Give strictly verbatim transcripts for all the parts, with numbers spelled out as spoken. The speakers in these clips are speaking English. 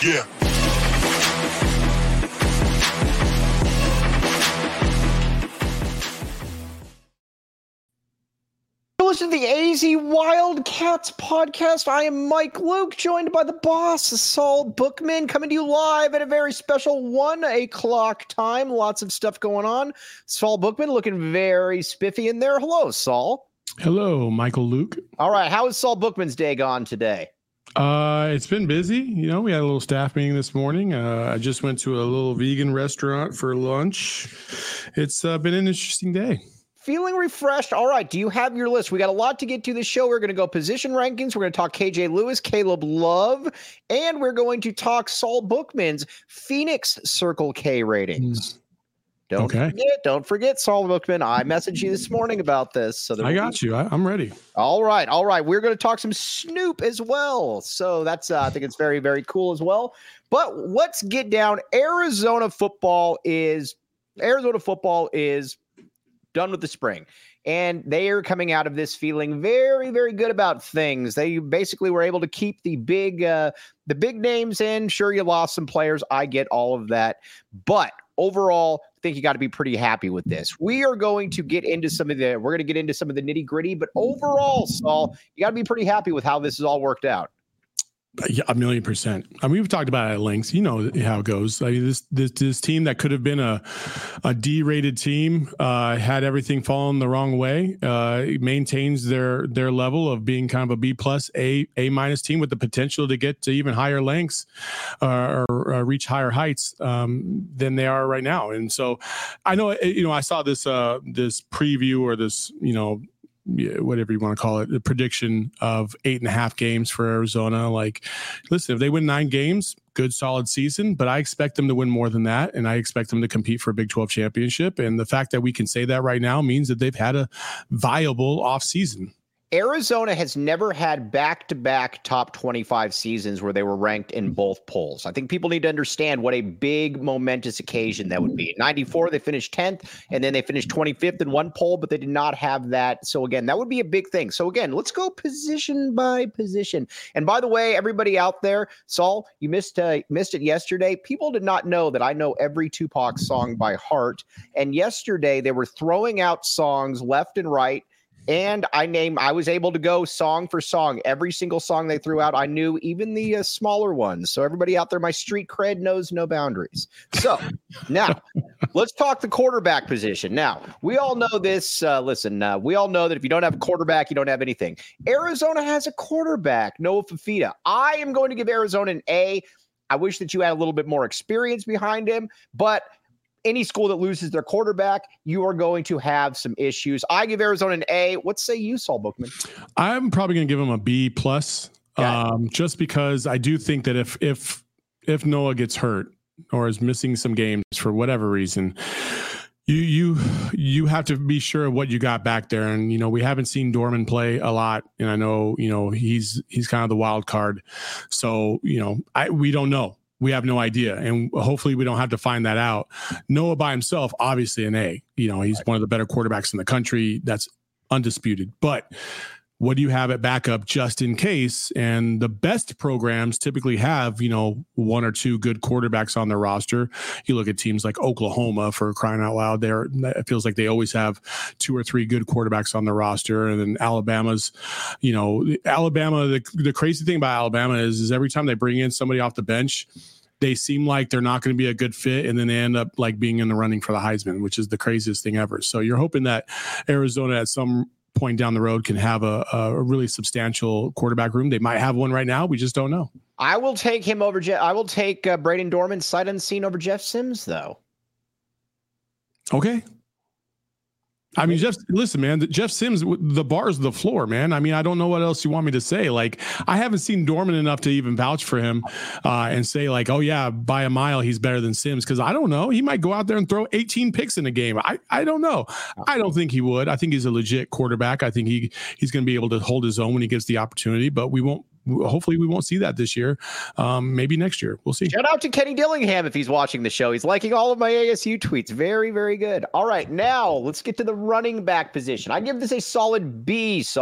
Yeah. Listen to the A Z Wildcats podcast. I am Mike Luke, joined by the boss, Saul Bookman, coming to you live at a very special one o'clock time. Lots of stuff going on. Saul Bookman looking very spiffy in there. Hello, Saul. Hello, Michael Luke. All right. How is Saul Bookman's day gone today? Uh, it's been busy. You know, we had a little staff meeting this morning. Uh, I just went to a little vegan restaurant for lunch. It's uh, been an interesting day. Feeling refreshed. All right. Do you have your list? We got a lot to get to this show. We're going to go position rankings. We're going to talk K J Lewis, Caleb Love, and we're going to talk Saul Bookman's Phoenix Circle K ratings. Mm. Don't okay. forget, don't forget, Saul Bookman. I messaged you this morning about this. So I got be- you. I, I'm ready. All right. All right. We're going to talk some Snoop as well. So that's, uh, I think it's very, very cool as well. But let's get down. Arizona football is, Arizona football is done with the spring, and they are coming out of this feeling very, very good about things. They basically were able to keep the big, uh, the big names in. Sure, you lost some players. I get all of that, but overall, I think you got to be pretty happy with this. We are going to get into some of the, we're going to get into some of the nitty gritty, but overall, Saul, you got to be pretty happy with how this has all worked out. Yeah, a million percent. I mean, we've talked about it at length. You know how it goes. I mean, this this this team that could have been a a D-rated team uh, had everything fallen the wrong way. Uh, it maintains their their level of being kind of a B plus, A A minus team with the potential to get to even higher lengths uh, or uh, reach higher heights um, than they are right now. And so, I know you know I saw this uh, this preview or this you know. whatever you want to call it, the prediction of eight and a half games for Arizona. Like, listen, if they win nine games, good, solid season, but I expect them to win more than that. And I expect them to compete for a Big twelve championship. And the fact that we can say that right now means that they've had a viable off season. Arizona has never had back-to-back top twenty-five seasons where they were ranked in both polls. I think people need to understand what a big momentous occasion that would be. In ninety-four, they finished tenth, and then they finished twenty-fifth in one poll, but they did not have that. So again, that would be a big thing. So again, let's go position by position. And by the way, everybody out there, Saul, you missed uh, missed it yesterday. People did not know that I know every Tupac song by heart. And yesterday, they were throwing out songs left and right. And I name, I was able to go song for song. Every single song they threw out, I knew, even the uh, smaller ones. So everybody out there, my street cred knows no boundaries. So now let's talk the quarterback position. Now, we all know this. Uh, listen, uh, we all know that if you don't have a quarterback, you don't have anything. Arizona has a quarterback, Noah Fifita. I am going to give Arizona an A. I wish that you had a little bit more experience behind him, but any school that loses their quarterback, you are going to have some issues. I give Arizona an A. What say you, Saul Bookman? I'm probably going to give him a B plus, um, just because I do think that if if if Noah gets hurt or is missing some games for whatever reason, you you you have to be sure of what you got back there. And you know, we haven't seen Dorman play a lot, and I know you know he's he's kind of the wild card. So you know, I we don't know. We have no idea, and hopefully we don't have to find that out. Noah by himself, obviously an A. You know, he's one of the better quarterbacks in the country. That's undisputed. But what do you have at backup just in case? And the best programs typically have, you know, one or two good quarterbacks on their roster. You look at teams like Oklahoma, for crying out loud. There, it feels like they always have two or three good quarterbacks on the roster. And then Alabama's, you know, Alabama. The, the crazy thing about Alabama is, is every time they bring in somebody off the bench, they seem like they're not going to be a good fit, and then they end up like being in the running for the Heisman, which is the craziest thing ever. So you're hoping that Arizona at some point down the road can have a, a really substantial quarterback room. They might have one right now. We just don't know. I will take him over. Je- I will take uh, Braden Dorman sight unseen over Jeff Sims, though. Okay. I mean, Jeff, listen, man, Jeff Sims, the bar is the floor, man. I mean, I don't know what else you want me to say. Like, I haven't seen Dorman enough to even vouch for him uh, and say like, oh yeah, by a mile, he's better than Sims. Cause I don't know. He might go out there and throw eighteen picks in a game. I, I don't know. I don't think he would. I think he's a legit quarterback. I think he, he's going to be able to hold his own when he gets the opportunity, but we won't, hopefully we won't see that this year. Um, maybe next year. We'll see. Shout out to Kenny Dillingham if he's watching the show. He's liking all of my A S U tweets. Very, very good. All right, now let's get to the running back position. I give this a solid B, Saul.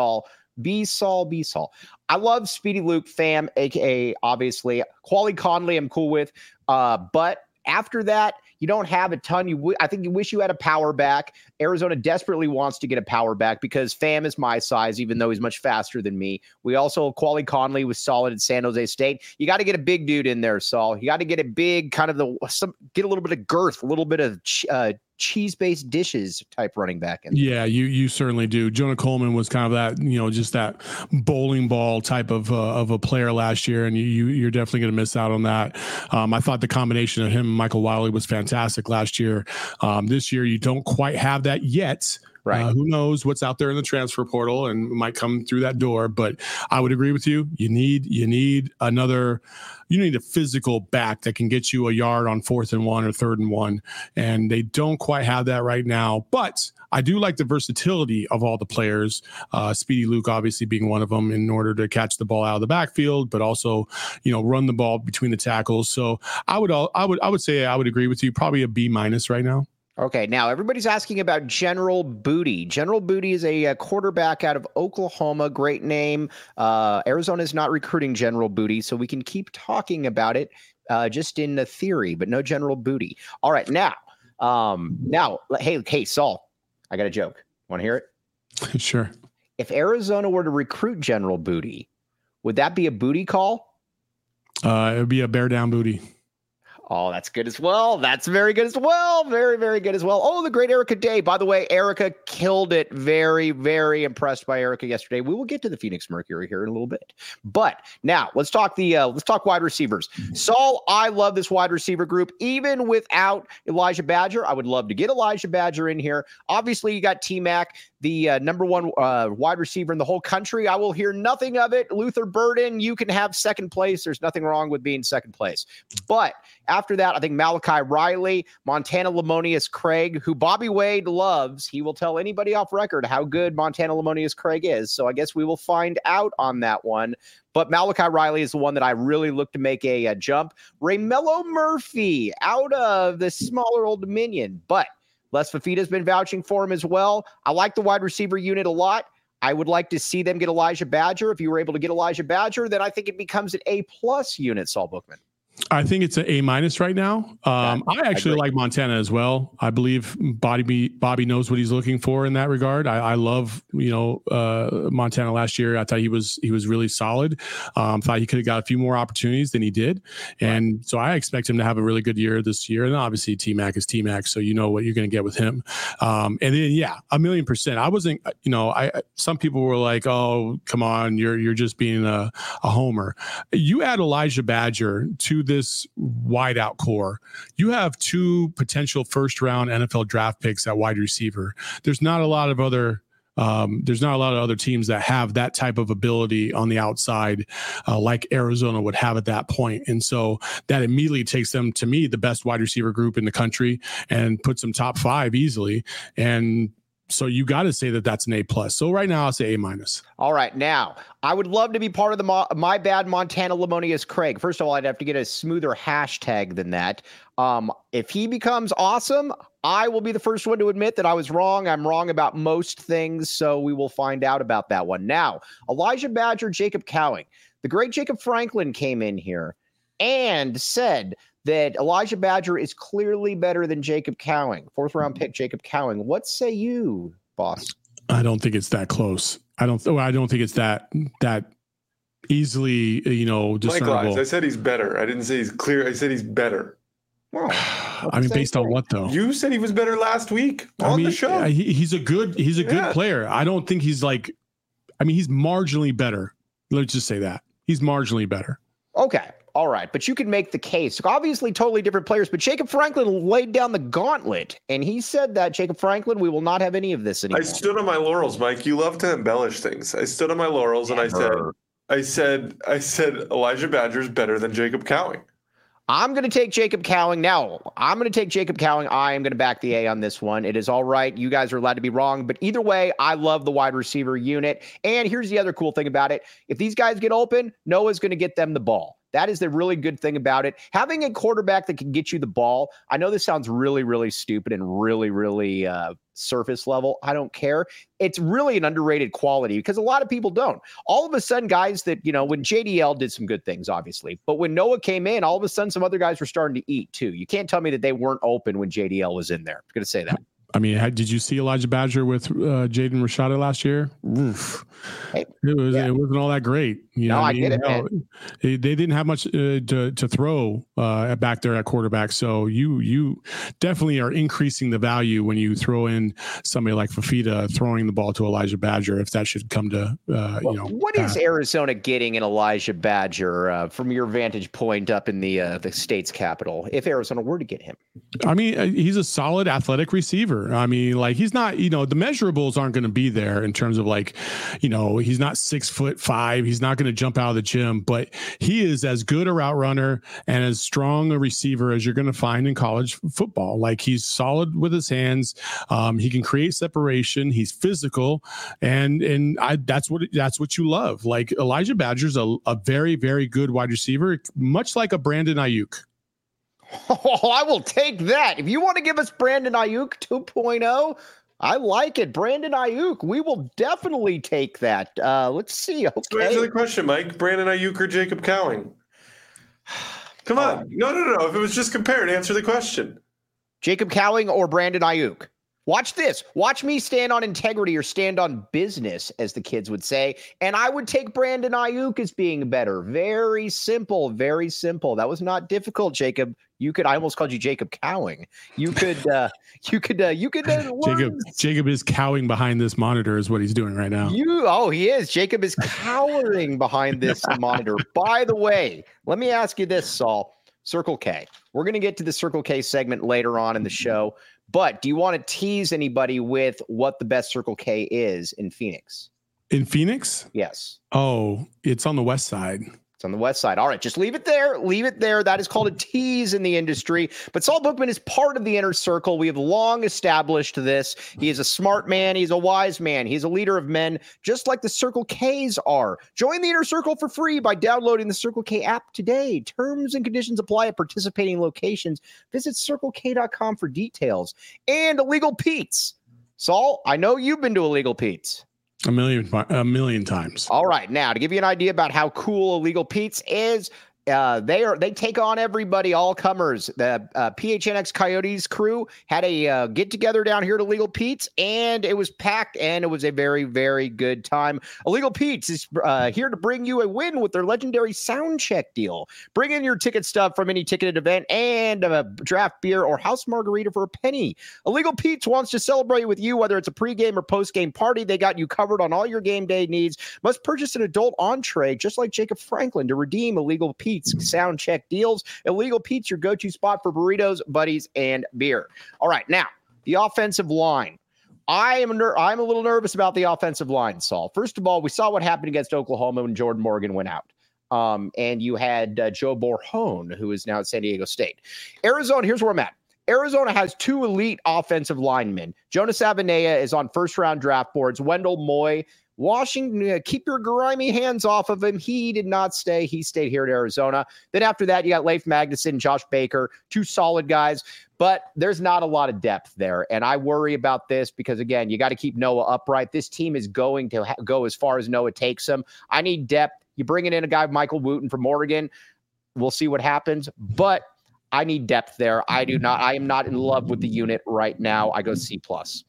B Saul, B Saul. I love Speedy Luke, fam, aka obviously Quali Conley. I'm cool with, uh, but after that, you don't have a ton. You, w- I think you wish you had a power back. Arizona desperately wants to get a power back because Fam is my size, even though he's much faster than me. We also, Quali Conley was solid at San Jose State. You got to get a big dude in there, Saul. You got to get a big kind of the, some, get a little bit of girth, a little bit of ch- uh, cheese-based dishes type running back in there. Yeah, you you certainly do. Jonah Coleman was kind of that, you know, just that bowling ball type of uh, of a player last year, and you, you you're definitely going to miss out on that. Um, I thought the combination of him and Michael Wiley was fantastic last year. Um, this year, you don't quite have that yet. Right. Uh, who knows what's out there in the transfer portal and might come through that door. But I would agree with you. You need you need another. You need a physical back that can get you a yard on fourth and one or third and one, and they don't quite have that right now. But I do like the versatility of all the players. Uh, Speedy Luke obviously being one of them in order to catch the ball out of the backfield, but also, you know, run the ball between the tackles. So I would all I would I would say I would agree with you. Probably a B minus right now. Okay, now everybody's asking about General Booty. General Booty is a, a quarterback out of Oklahoma. Great name. Uh, Arizona is not recruiting General Booty, so we can keep talking about it uh, just in the theory, but no General Booty. All right, now, um, now, hey, hey, Saul, I got a joke. Want to hear it? Sure. If Arizona were to recruit General Booty, would that be a booty call? Uh, it would be a bear down booty. Oh, that's good as well. That's very good as well. Very, very good as well. Oh, the great Erica Day. By the way, Erica killed it. Very, very impressed by Erica yesterday. We will get to the Phoenix Mercury here in a little bit. But now let's talk the uh, let's talk wide receivers. Saul, I love this wide receiver group. Even without Elijah Badger, I would love to get Elijah Badger in here. Obviously, you got T-Mac, the uh, number one uh, wide receiver in the whole country. I will hear nothing of it. Luther Burden, you can have second place. There's nothing wrong with being second place. But after that, I think Malachi Riley, Montana Lamonius Craig, who Bobby Wade loves. He will tell anybody off record how good Montana Lamonius Craig is. So I guess we will find out on that one. But Malachi Riley is the one that I really look to make a, a jump. Raymello Murphy out of the smaller Old Dominion. But Les Fafita's been vouching for him as well. I like the wide receiver unit a lot. I would like to see them get Elijah Badger. If you were able to get Elijah Badger, then I think it becomes an A-plus unit, Saul Bookman. I think it's an A minus right now. Um, I actually I like Montana as well. I believe Bobby Bobby knows what he's looking for in that regard. I, I love, you know, uh, Montana last year. I thought he was he was really solid. Um, thought he could have got a few more opportunities than he did, and right. so I expect him to have a really good year this year. And obviously T-Mac is T-Mac, so you know what you're going to get with him. Um, and then yeah, a million percent. I wasn't, you know, I some people were like, oh, come on, you're you're just being a, a homer. You add Elijah Badger to this wideout core, you have two potential first round N F L draft picks at wide receiver. There's not a lot of other um, there's not a lot of other teams that have that type of ability on the outside uh, like Arizona would have at that point. And so that immediately takes them, to me, the best wide receiver group in the country and puts them top five easily. And so you got to say that that's an A plus. So right now I'll say A minus. All right. Now I would love to be part of the Mo- My Bad Montana Lamonius Craig. First of all, I'd have to get a smoother hashtag than that. Um, if he becomes awesome, I will be the first one to admit that I was wrong. I'm wrong about most things. So we will find out about that one. Now, Elijah Badger, Jacob Cowing, the great Jacob Franklin came in here and said that Elijah Badger is clearly better than Jacob Cowing. Fourth round pick, Jacob Cowing. What say you, boss? I don't think it's that close. I don't. I don't think it's that that easily, you know, discernible. Likewise, I said he's better. I didn't say he's clear. I said he's better. Wow. I mean, based on what though? You said he was better last week on I mean, the show. He, he's a good. He's a good yeah. player. I don't think he's like. I mean, he's marginally better. Let's just say that he's marginally better. Okay. All right, but you can make the case. Obviously, totally different players, but Jacob Franklin laid down the gauntlet, and he said that, Jacob Franklin, we will not have any of this anymore. I stood on my laurels, Mike. You love to embellish things. I stood on my laurels, Never. and I said, I said, I said, Elijah Badger's better than Jacob Cowing. I'm going to take Jacob Cowing. Now, I'm going to take Jacob Cowing. I am going to back the A on this one. It is all right. You guys are allowed to be wrong. But either way, I love the wide receiver unit. And here's the other cool thing about it. If these guys get open, Noah's going to get them the ball. That is the really good thing about it. Having a quarterback that can get you the ball. I know this sounds really, really stupid and really, really uh, surface level. I don't care. It's really an underrated quality because a lot of people don't. All of a sudden, guys that, you know, when J D L did some good things, obviously, but when Noah came in, all of a sudden, some other guys were starting to eat too. You can't tell me that they weren't open when J D L was in there. I'm going to say that. I mean, how, did you see Elijah Badger with uh, Jaden Rashada last year? Oof. Hey, it was yeah. it wasn't all that great. You no, know I, I mean? get it, man. They, they didn't have much uh, to to throw uh, back there at quarterback. So you you definitely are increasing the value when you throw in somebody like Fafita throwing the ball to Elijah Badger. If that should come to uh, well, you know, what pass. is Arizona getting in Elijah Badger uh, from your vantage point up in the uh, the state's capital? If Arizona were to get him, I mean, he's a solid athletic receiver. I mean, like he's not, you know, the measurables aren't going to be there in terms of like, you know, he's not six foot five. He's not going to jump out of the gym, but he is as good a route runner and as strong a receiver as you're going to find in college football. Like he's solid with his hands. Um, he can create separation. He's physical. And, and I, that's what, that's what you love. Like Elijah Badger's a, a very, very good wide receiver, much like a Brandon Ayuk. Oh, I will take that. If you want to give us Brandon Ayuk two point oh, I like it. Brandon Ayuk, we will definitely take that. Uh, let's see. Okay. So answer the question, Mike. Brandon Ayuk or Jacob Cowing? Come on. No, no, no, no. If it was just compared, answer the question. Jacob Cowing or Brandon Ayuk? Watch this. Watch me stand on integrity or stand on business, as the kids would say. And I would take Brandon Ayuk as being better. Very simple. Very simple. That was not difficult, Jacob. You could, I almost called you Jacob Cowing. You could, uh, you could, uh, you could, uh, Jacob, Jacob is cowing behind this monitor is what he's doing right now. You, oh, he is. Jacob is cowering behind this monitor. By the way, let me ask you this, Saul. Circle K. We're going to get to the Circle K segment later on in the show, but do you want to tease anybody with what the best Circle K is in Phoenix? In Phoenix? Yes. Oh, it's on the west side. It's on the west side. All right, just leave it there. Leave it there. That is called a tease in the industry. But Saul Bookman is part of the inner circle. We have long established this. He is a smart man. He's a wise man. He's a leader of men, just like the Circle Ks are. Join the inner circle for free by downloading the Circle K app today. Terms and conditions apply at participating locations. Visit circle k dot com for details. And Illegal Pete's. Saul, I know you've been to Illegal Pete's. A million, a million times. All right. Now, to give you an idea about how cool Illegal Pete's is, uh, they are they take on everybody, all comers. The uh, P H N X Coyotes crew had a uh, get together down here at Illegal Pete's, and it was packed, and it was a very, very good time. Illegal Pete's is uh, here to bring you a win with their legendary sound check deal. Bring in your ticket stub from any ticketed event and a draft beer or house margarita for a penny. Illegal Pete's wants to celebrate with you, whether it's a pregame or postgame party. They got you covered on all your game day needs. Must purchase an adult entree, just like Jacob Franklin, to redeem Illegal Pete's sound check deals. Illegal Pete's, your go-to spot for burritos, buddies, and beer. All right, now the offensive line. I am ner- I'm a little nervous about the offensive line, Saul. First of all, we saw what happened against Oklahoma when Jordan Morgan went out. Um, and you had uh, Joe Borhone, who is now at San Diego State. Arizona, here's where I'm at. Arizona has two elite offensive linemen. Jonas Avenea is on first-round draft boards. Wendell Moy. Washington, uh, keep your grimy hands off of him. He did not stay. He stayed here at Arizona. Then after that, you got Leif Magnuson, Josh Baker, two solid guys, but there's not a lot of depth there. And I worry about this because, again, you got to keep Noah upright. This team is going to ha- go as far as Noah takes them. I need depth. You're bringing in a guy, Michael Wooten from Oregon. We'll see what happens, but I need depth there. I do not. I am not in love with the unit right now. I go C plus.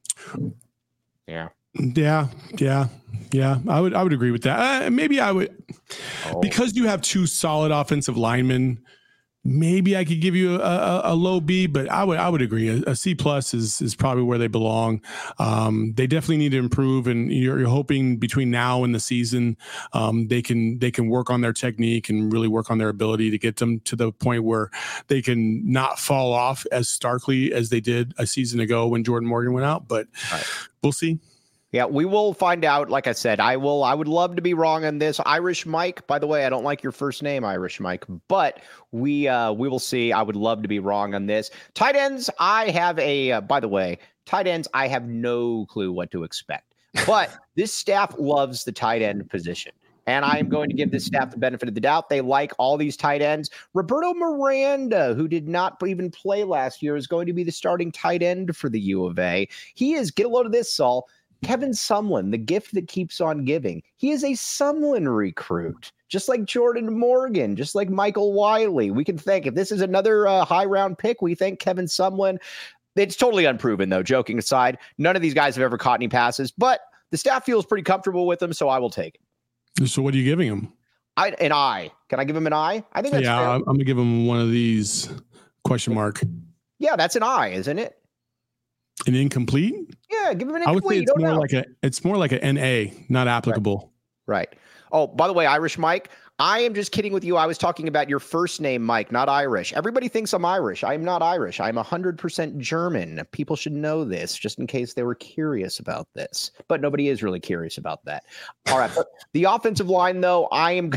Yeah. Yeah, yeah, yeah. I would, I would agree with that. Uh, maybe I would, oh. because you have two solid offensive linemen. Maybe I could give you a, a, a low B, but I would, I would agree. A, a C plus is is probably where they belong. Um, they definitely need to improve, and you're, you're hoping between now and the season, um, they can they can work on their technique and really work on their ability to get them to the point where they can not fall off as starkly as they did a season ago when Jordan Morgan went out. But right. We'll see. Yeah, we will find out. Like I said, I will. I would love to be wrong on this. Irish Mike, by the way, I don't like your first name, Irish Mike, but we uh, we will see. I would love to be wrong on this. Tight ends, I have a. Uh, by the way, tight ends, I have no clue what to expect. But this staff loves the tight end position. And I am going to give this staff the benefit of the doubt. They like all these tight ends. Roberto Miranda, who did not even play last year, is going to be the starting tight end for the U of A. He is, get a load of this, Saul, Kevin Sumlin, the gift that keeps on giving. He is a Sumlin recruit, just like Jordan Morgan, just like Michael Wiley. We can thank, if this is another uh, high round pick, we thank Kevin Sumlin. It's totally unproven, though, joking aside. None of these guys have ever caught any passes, but the staff feels pretty comfortable with them, so I will take it. So what are you giving him? I, an I. Can I give him an I? I think that's yeah. fair. I'm gonna give him one of these question mark. Yeah, that's an I, isn't it? An incomplete? Yeah, give him an incomplete. I would say it's more know. like a it's more like an N A, not applicable. Right. right. Oh, by the way, Irish Mike, I am just kidding with you. I was talking about your first name, Mike, not Irish. Everybody thinks I'm Irish. I am not Irish. I'm one hundred percent German. People should know this just in case they were curious about this. But nobody is really curious about that. All right. But the offensive line, though, I am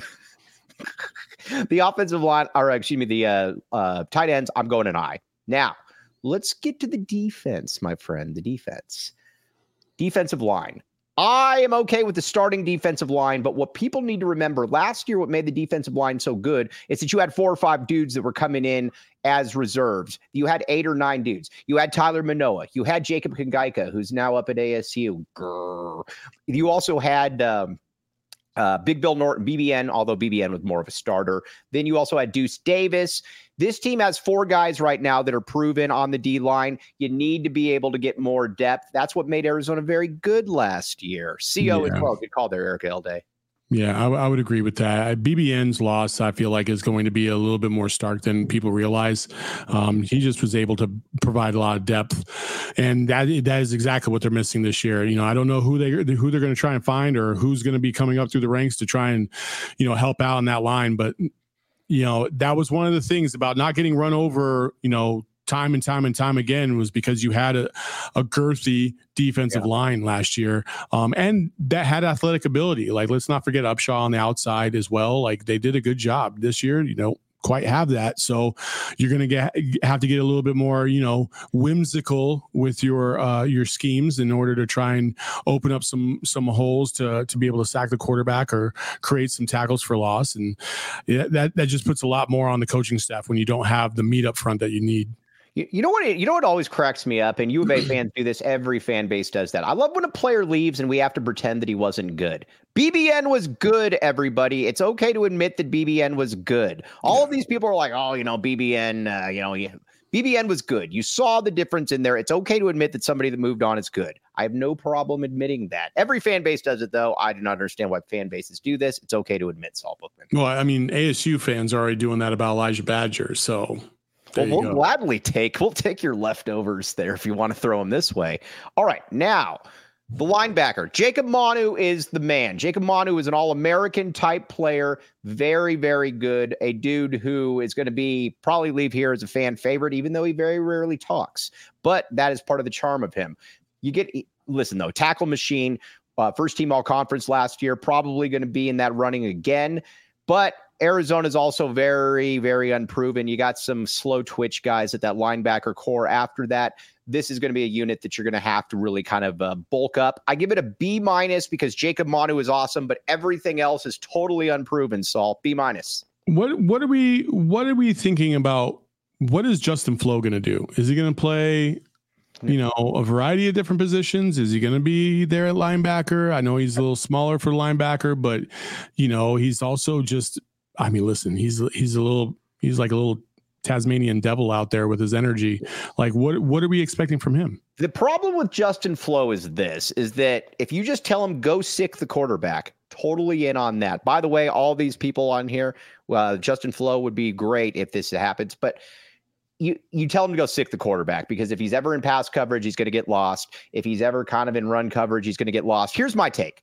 the offensive line, or excuse me, the uh, uh, tight ends, I'm going an I. Now, let's get to the defense, my friend, the defense. Defensive line. I am okay with the starting defensive line, but what people need to remember, last year what made the defensive line so good is that you had four or five dudes that were coming in as reserves. You had eight or nine dudes. You had Tyler Manoa. You had Jacob Kangaika, who's now up at A S U. Grrr. You also had um, uh, Big Bill Norton, B B N, although B B N was more of a starter. Then you also had Deuce Davis. This team has four guys right now that are proven on the D-line. You need to be able to get more depth. That's what made Arizona very good last year. C O yeah. as well. Good call there, Eric Elday. Yeah, I, w- I would agree with that. B B N's loss, I feel like, is going to be a little bit more stark than people realize. Um, he just was able to provide a lot of depth, and that that is exactly what they're missing this year. You know, I don't know who they who they're going to try and find or who's going to be coming up through the ranks to try and, you know, help out in that line, but. You know, that was one of the things about not getting run over, you know, time and time and time again was because you had a, a girthy defensive yeah. line last year. Um, and that had athletic ability. Like, let's not forget Upshaw on the outside as well. Like, they did a good job this year, you know. Quite have that, so you're going to get have to get a little bit more, you know, whimsical with your uh, your schemes in order to try and open up some some holes to to be able to sack the quarterback or create some tackles for loss, and yeah, that that just puts a lot more on the coaching staff when you don't have the meat up front that you need. You, you know what? It, you know what always cracks me up, and U of A fans do this. Every fan base does that. I love when a player leaves and we have to pretend that he wasn't good. B B N was good, everybody. It's okay to admit that B B N was good. All yeah. of these people are like, oh, you know, B B N, uh, you know, yeah. B B N was good. You saw the difference in there. It's okay to admit that somebody that moved on is good. I have no problem admitting that. Every fan base does it, though. I do not understand why fan bases do this. It's okay to admit, Saul Bookman. Well, I mean, A S U fans are already doing that about Elijah Badger, so... Well, we'll go. gladly take we'll take your leftovers there if you want to throw them this way. All right, now the linebacker Jacob Manu is the man. Jacob Manu is an All-American type player, very very good. A dude who is going to be probably leave here as a fan favorite, even though he very rarely talks. But that is part of the charm of him. You get listen though, tackle machine, uh, first team all conference last year, probably going to be in that running again, but. Arizona is also very, very unproven. You got some slow twitch guys at that linebacker core. After that, this is going to be a unit that you're going to have to really kind of uh, bulk up. I give it a B minus because Jacob Manu is awesome, but everything else is totally unproven. Saul, B minus. What what are we what are we thinking about? What is Justin Flo going to do? Is he going to play? You know, a variety of different positions. Is he going to be there at linebacker? I know he's a little smaller for linebacker, but you know, he's also just. I mean, listen, he's he's a little he's like a little Tasmanian devil out there with his energy. Like, what what are we expecting from him? The problem with Justin Flo is this, is that if you just tell him go sick the quarterback, totally in on that. By the way, all these people on here, uh, Justin Flo would be great if this happens, but you you tell him to go sick the quarterback because if he's ever in pass coverage, he's going to get lost. If he's ever kind of in run coverage, he's going to get lost. Here's my take.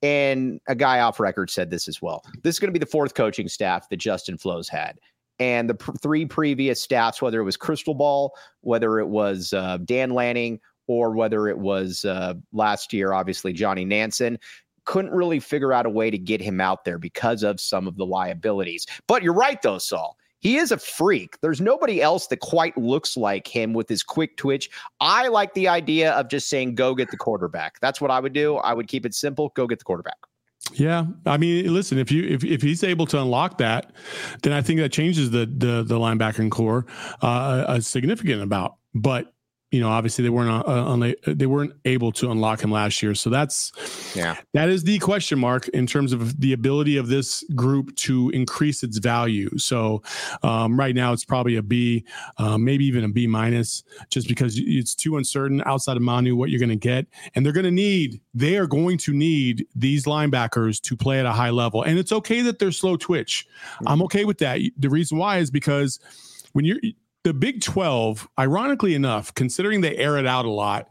And a guy off record said this as well. This is going to be the fourth coaching staff that Justin Flo's had. And the pr- three previous staffs, whether it was Crystal Ball, whether it was uh, Dan Lanning, or whether it was uh, last year, obviously, Johnny Nansen, couldn't really figure out a way to get him out there because of some of the liabilities. But you're right, though, Saul. He is a freak. There's nobody else that quite looks like him with his quick twitch. I like the idea of just saying, go get the quarterback. That's what I would do. I would keep it simple. Go get the quarterback. Yeah, I mean, listen, if you if, if he's able to unlock that, then I think that changes the the the linebacking core uh, a significant amount. But you know, obviously they weren't uh, they weren't able to unlock him last year, so that's yeah, that is the question mark in terms of the ability of this group to increase its value. So um, right now it's probably a B, uh, maybe even a B minus, just because it's too uncertain outside of Manu what you're going to get, and they're going to need they are going to need these linebackers to play at a high level, and it's okay that they're slow twitch. Mm-hmm. I'm okay with that. The reason why is because when you're the Big twelve, ironically enough, considering they air it out a lot,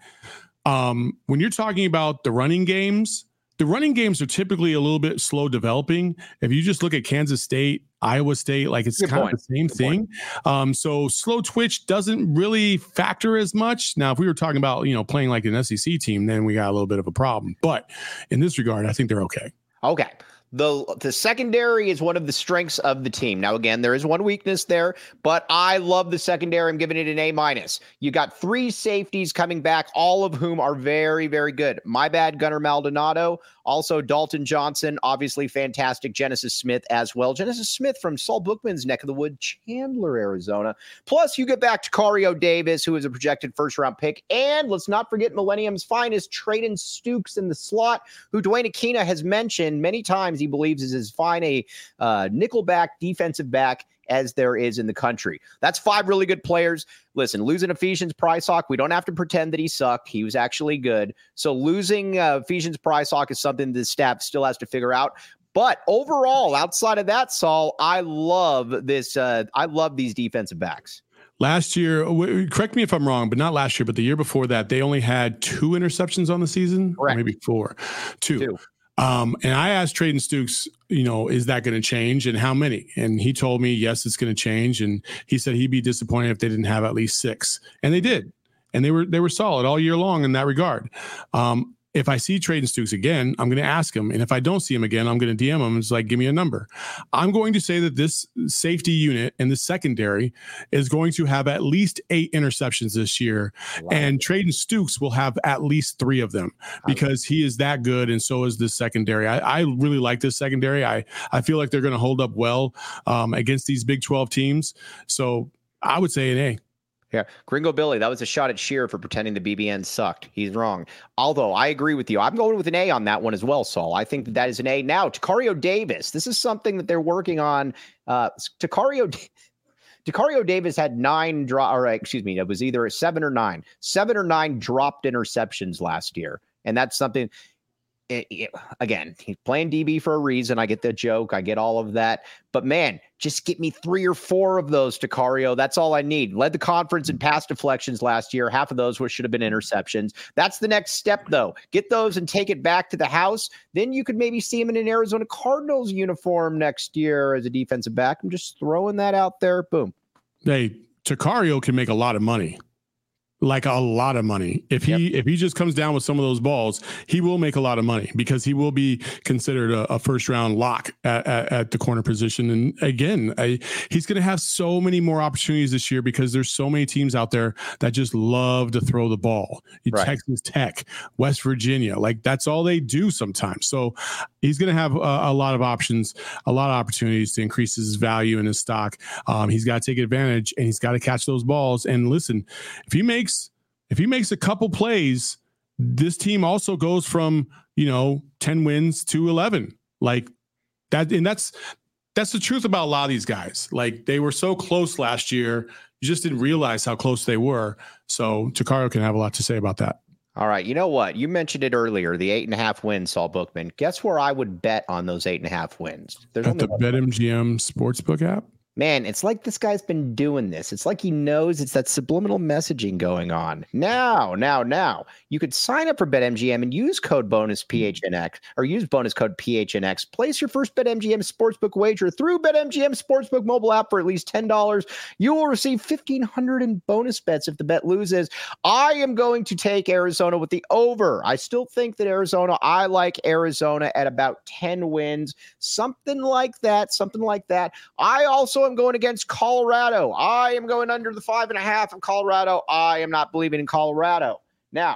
um, when you're talking about the running games, the running games are typically a little bit slow developing. If you just look at Kansas State, Iowa State, like it's Good kind point. of the same Good thing. Um, so slow twitch doesn't really factor as much. Now, if we were talking about, you know, playing like an S E C team, then we got a little bit of a problem. But in this regard, I think they're okay. Okay. The the secondary is one of the strengths of the team. Now, again, there is one weakness there, but I love the secondary. I'm giving it an A minus. You got three safeties coming back, all of whom are very, very good. My bad, Gunnar Maldonado. Also, Dalton Johnson, obviously fantastic. Genesis Smith as well. Genesis Smith from Saul Bookman's neck of the wood, Chandler, Arizona. Plus, you get back to Cario Davis, who is a projected first-round pick. And let's not forget Millennium's finest, Trayden Stukes in the slot, who Dwayne Aquina has mentioned many times he believes is as fine a uh, nickelback defensive back as there is in the country. That's five really good players. Listen, losing Ephesians Prysock, we don't have to pretend that he sucked. He was actually good. So losing uh, Ephesians Prysock is something the staff still has to figure out. But overall, outside of that, Saul, I love this. Uh, I love these defensive backs. Last year, correct me if I'm wrong, but not last year, but the year before that, they only had two interceptions on the season. Correct. Or maybe four. Two. Two. Um, and I asked Trayden Stukes, you know, is that going to change and how many? And he told me, yes, it's going to change. And he said he'd be disappointed if they didn't have at least six. And they did. And they were they were solid all year long in that regard. Um, if I see Trayden Stukes again, I'm going to ask him. And if I don't see him again, I'm going to D M him. It's like, give me a number. I'm going to say that this safety unit and the secondary is going to have at least eight interceptions this year. Wow. And Trayden Stukes will have at least three of them because he is that good. And so is the secondary. I, I really like this secondary. I, I feel like they're going to hold up well um, against these Big twelve teams. So I would say an A. Yeah, Gringo Billy, that was a shot at Shearer for pretending the B B N sucked. He's wrong. Although I agree with you. I'm going with an A on that one as well, Saul. I think that that is an A. Now, Tacario Davis. This is something that they're working on. Uh, Tacario, Tacario Davis had nine draw, or excuse me, it was either a seven or nine, seven or nine dropped interceptions last year. And that's something. It, it, again, he's playing D B for a reason. I get the joke. I get all of that. But man, just get me three or four of those, Tacario. That's all I need. Led the conference in pass deflections last year. Half of those were, should have been interceptions. That's the next step, though. Get those and take it back to the house. Then you could maybe see him in an Arizona Cardinals uniform next year as a defensive back. I'm just throwing that out there. Boom. Hey, Tacario can make a lot of money. Like a lot of money. If he yep. if he just comes down with some of those balls, he will make a lot of money because he will be considered a, a first round lock at, at, at the corner position. And again, I, he's going to have so many more opportunities this year because there's so many teams out there that just love to throw the ball. Right. Texas Tech, West Virginia, like that's all they do sometimes. So he's going to have a, a lot of options, a lot of opportunities to increase his value in his stock. Um, he's got to take advantage and he's got to catch those balls. And listen, if he makes If he makes a couple plays, this team also goes from, you know, ten wins to eleven. Like that. And that's, that's the truth about a lot of these guys. Like they were so close last year. You just didn't realize how close they were. So Tacario can have a lot to say about that. All right. You know what? You mentioned it earlier, the eight and a half wins, Saul Bookman. Guess where I would bet on those eight and a half wins? There's At the BetMGM Sportsbook app? Man, it's like this guy's been doing this. It's like he knows it's that subliminal messaging going on. Now, now, now, you could sign up for BetMGM and use code bonus P H N X or use bonus code P H N X. Place your first BetMGM Sportsbook wager through BetMGM Sportsbook mobile app for at least ten dollars. You will receive fifteen hundred dollars in bonus bets if the bet loses. I am going to take Arizona with the over. I still think that Arizona, I like Arizona at about ten wins, something like that, something like that. I also am going against Colorado. I am going under the five and a half of Colorado. I am not believing in Colorado. Now,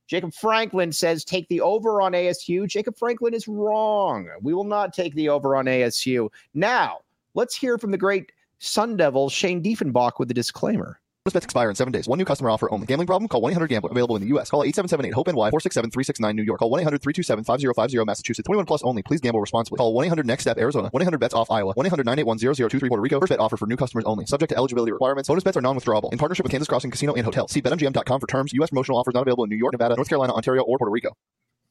Jacob Franklin says take the over on A S U. Jacob Franklin is wrong. We will not take the over on A S U. Now, let's hear from the great Sun Devil, Shane Diefenbach, with a disclaimer. Bonus bets expire in seven days. One new customer offer only. Gambling problem? Call one eight hundred gambler. Available in the U S. Call eight seven seven eight hope N Y four six seven three six nine New York. Call one eight hundred three two seven five zero five zero Massachusetts. twenty-one plus only. Please gamble responsibly. Call one eight hundred next step Arizona. one eight hundred bets off Iowa. one eight hundred nine eight one zero zero two three Puerto Rico. First bet offer for new customers only. Subject to eligibility requirements. Bonus bets are non-withdrawable. In partnership with Kansas Crossing Casino and Hotel. See bet M G M dot com for terms. U S promotional offers not available in New York, Nevada, North Carolina, Ontario, or Puerto Rico.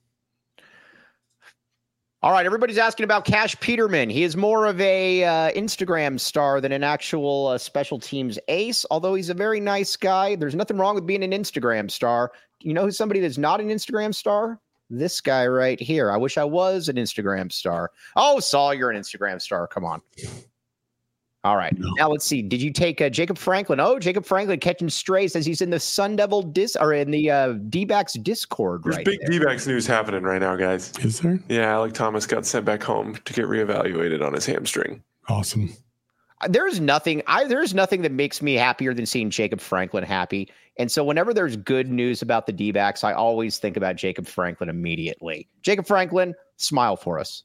All right, everybody's asking about Cash Peterman. He is more of a uh, Instagram star than an actual uh, special teams ace, although he's a very nice guy. There's nothing wrong with being an Instagram star. You know who's somebody that's not an Instagram star? This guy right here. I wish I was an Instagram star. Oh, Saul, you're an Instagram star. Come on. All right. No. Now let's see. Did you take uh, Jacob Franklin? Oh, Jacob Franklin catching strays as he's in the Sun Devil dis or in the uh, D-backs Discord. There's right big there. D-backs news happening right now, guys. Is there? Yeah, Alec Thomas got sent back home to get reevaluated on his hamstring. Awesome. There's nothing. I there's nothing that makes me happier than seeing Jacob Franklin happy. And so whenever there's good news about the D-backs, I always think about Jacob Franklin immediately. Jacob Franklin, smile for us.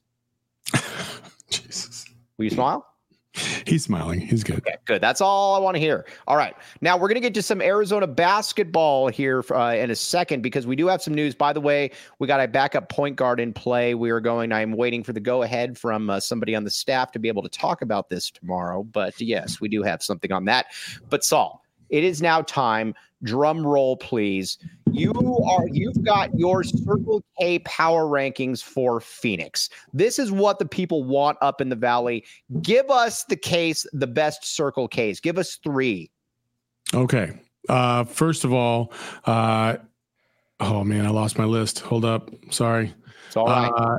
Jesus. Will you smile? He's smiling. He's good. Okay, good. That's all I want to hear. All right. Now we're going to get to some Arizona basketball here uh, in a second because we do have some news. By the way, we got a backup point guard in play. We are going, I'm waiting for the go ahead from uh, somebody on the staff to be able to talk about this tomorrow. But yes, we do have something on that. But Saul, it is now time. Drum roll, please. You are, you've got your Circle K power rankings for Phoenix. This is what the people want up in the Valley. Give us the case, the best Circle Ks. Give us three. Okay. Uh, first of all, uh, oh man, I lost my list. Hold up. Sorry. It's all right. Uh,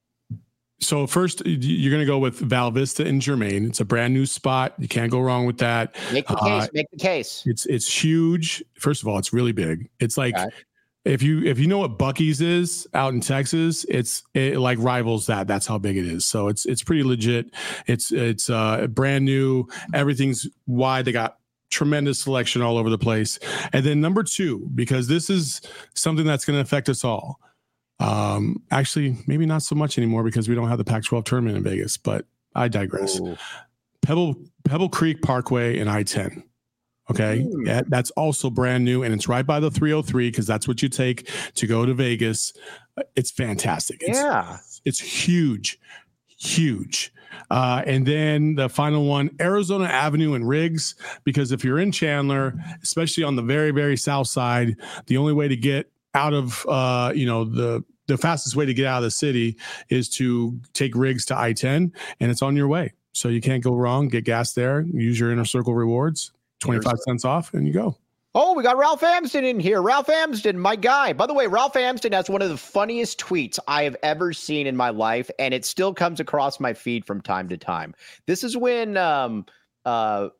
So first, you're going to go with Val Vista and Germain. It's a brand new spot. You can't go wrong with that. Make the case. Uh, make the case. It's it's huge. First of all, it's really big. It's like okay. if you if you know what Buc-ee's is out in Texas, it's it like rivals that. That's how big it is. So it's it's pretty legit. It's it's uh, brand new. Everything's wide. They got tremendous selection all over the place. And then number two, because this is something that's going to affect us all. Um, actually, maybe not so much anymore because we don't have the Pac twelve tournament in Vegas, but I digress. Ooh. Pebble Pebble Creek Parkway and I ten. Okay. Mm. Yeah, that's also brand new and it's right by the three oh three because that's what you take to go to Vegas. It's fantastic. It's, yeah. It's huge, huge. Uh, and then the final one, Arizona Avenue and Riggs, because if you're in Chandler, especially on the very, very south side, the only way to get out of, uh, you know, the, the fastest way to get out of the city is to take Riggs to I ten and it's on your way. So you can't go wrong. Get gas there, use your Inner Circle rewards, twenty-five cents off and you go. Oh, we got Ralph Amsden in here. Ralph Amsden, my guy. By the way, Ralph Amsden has one of the funniest tweets I have ever seen in my life. And it still comes across my feed from time to time. This is when, um, uh,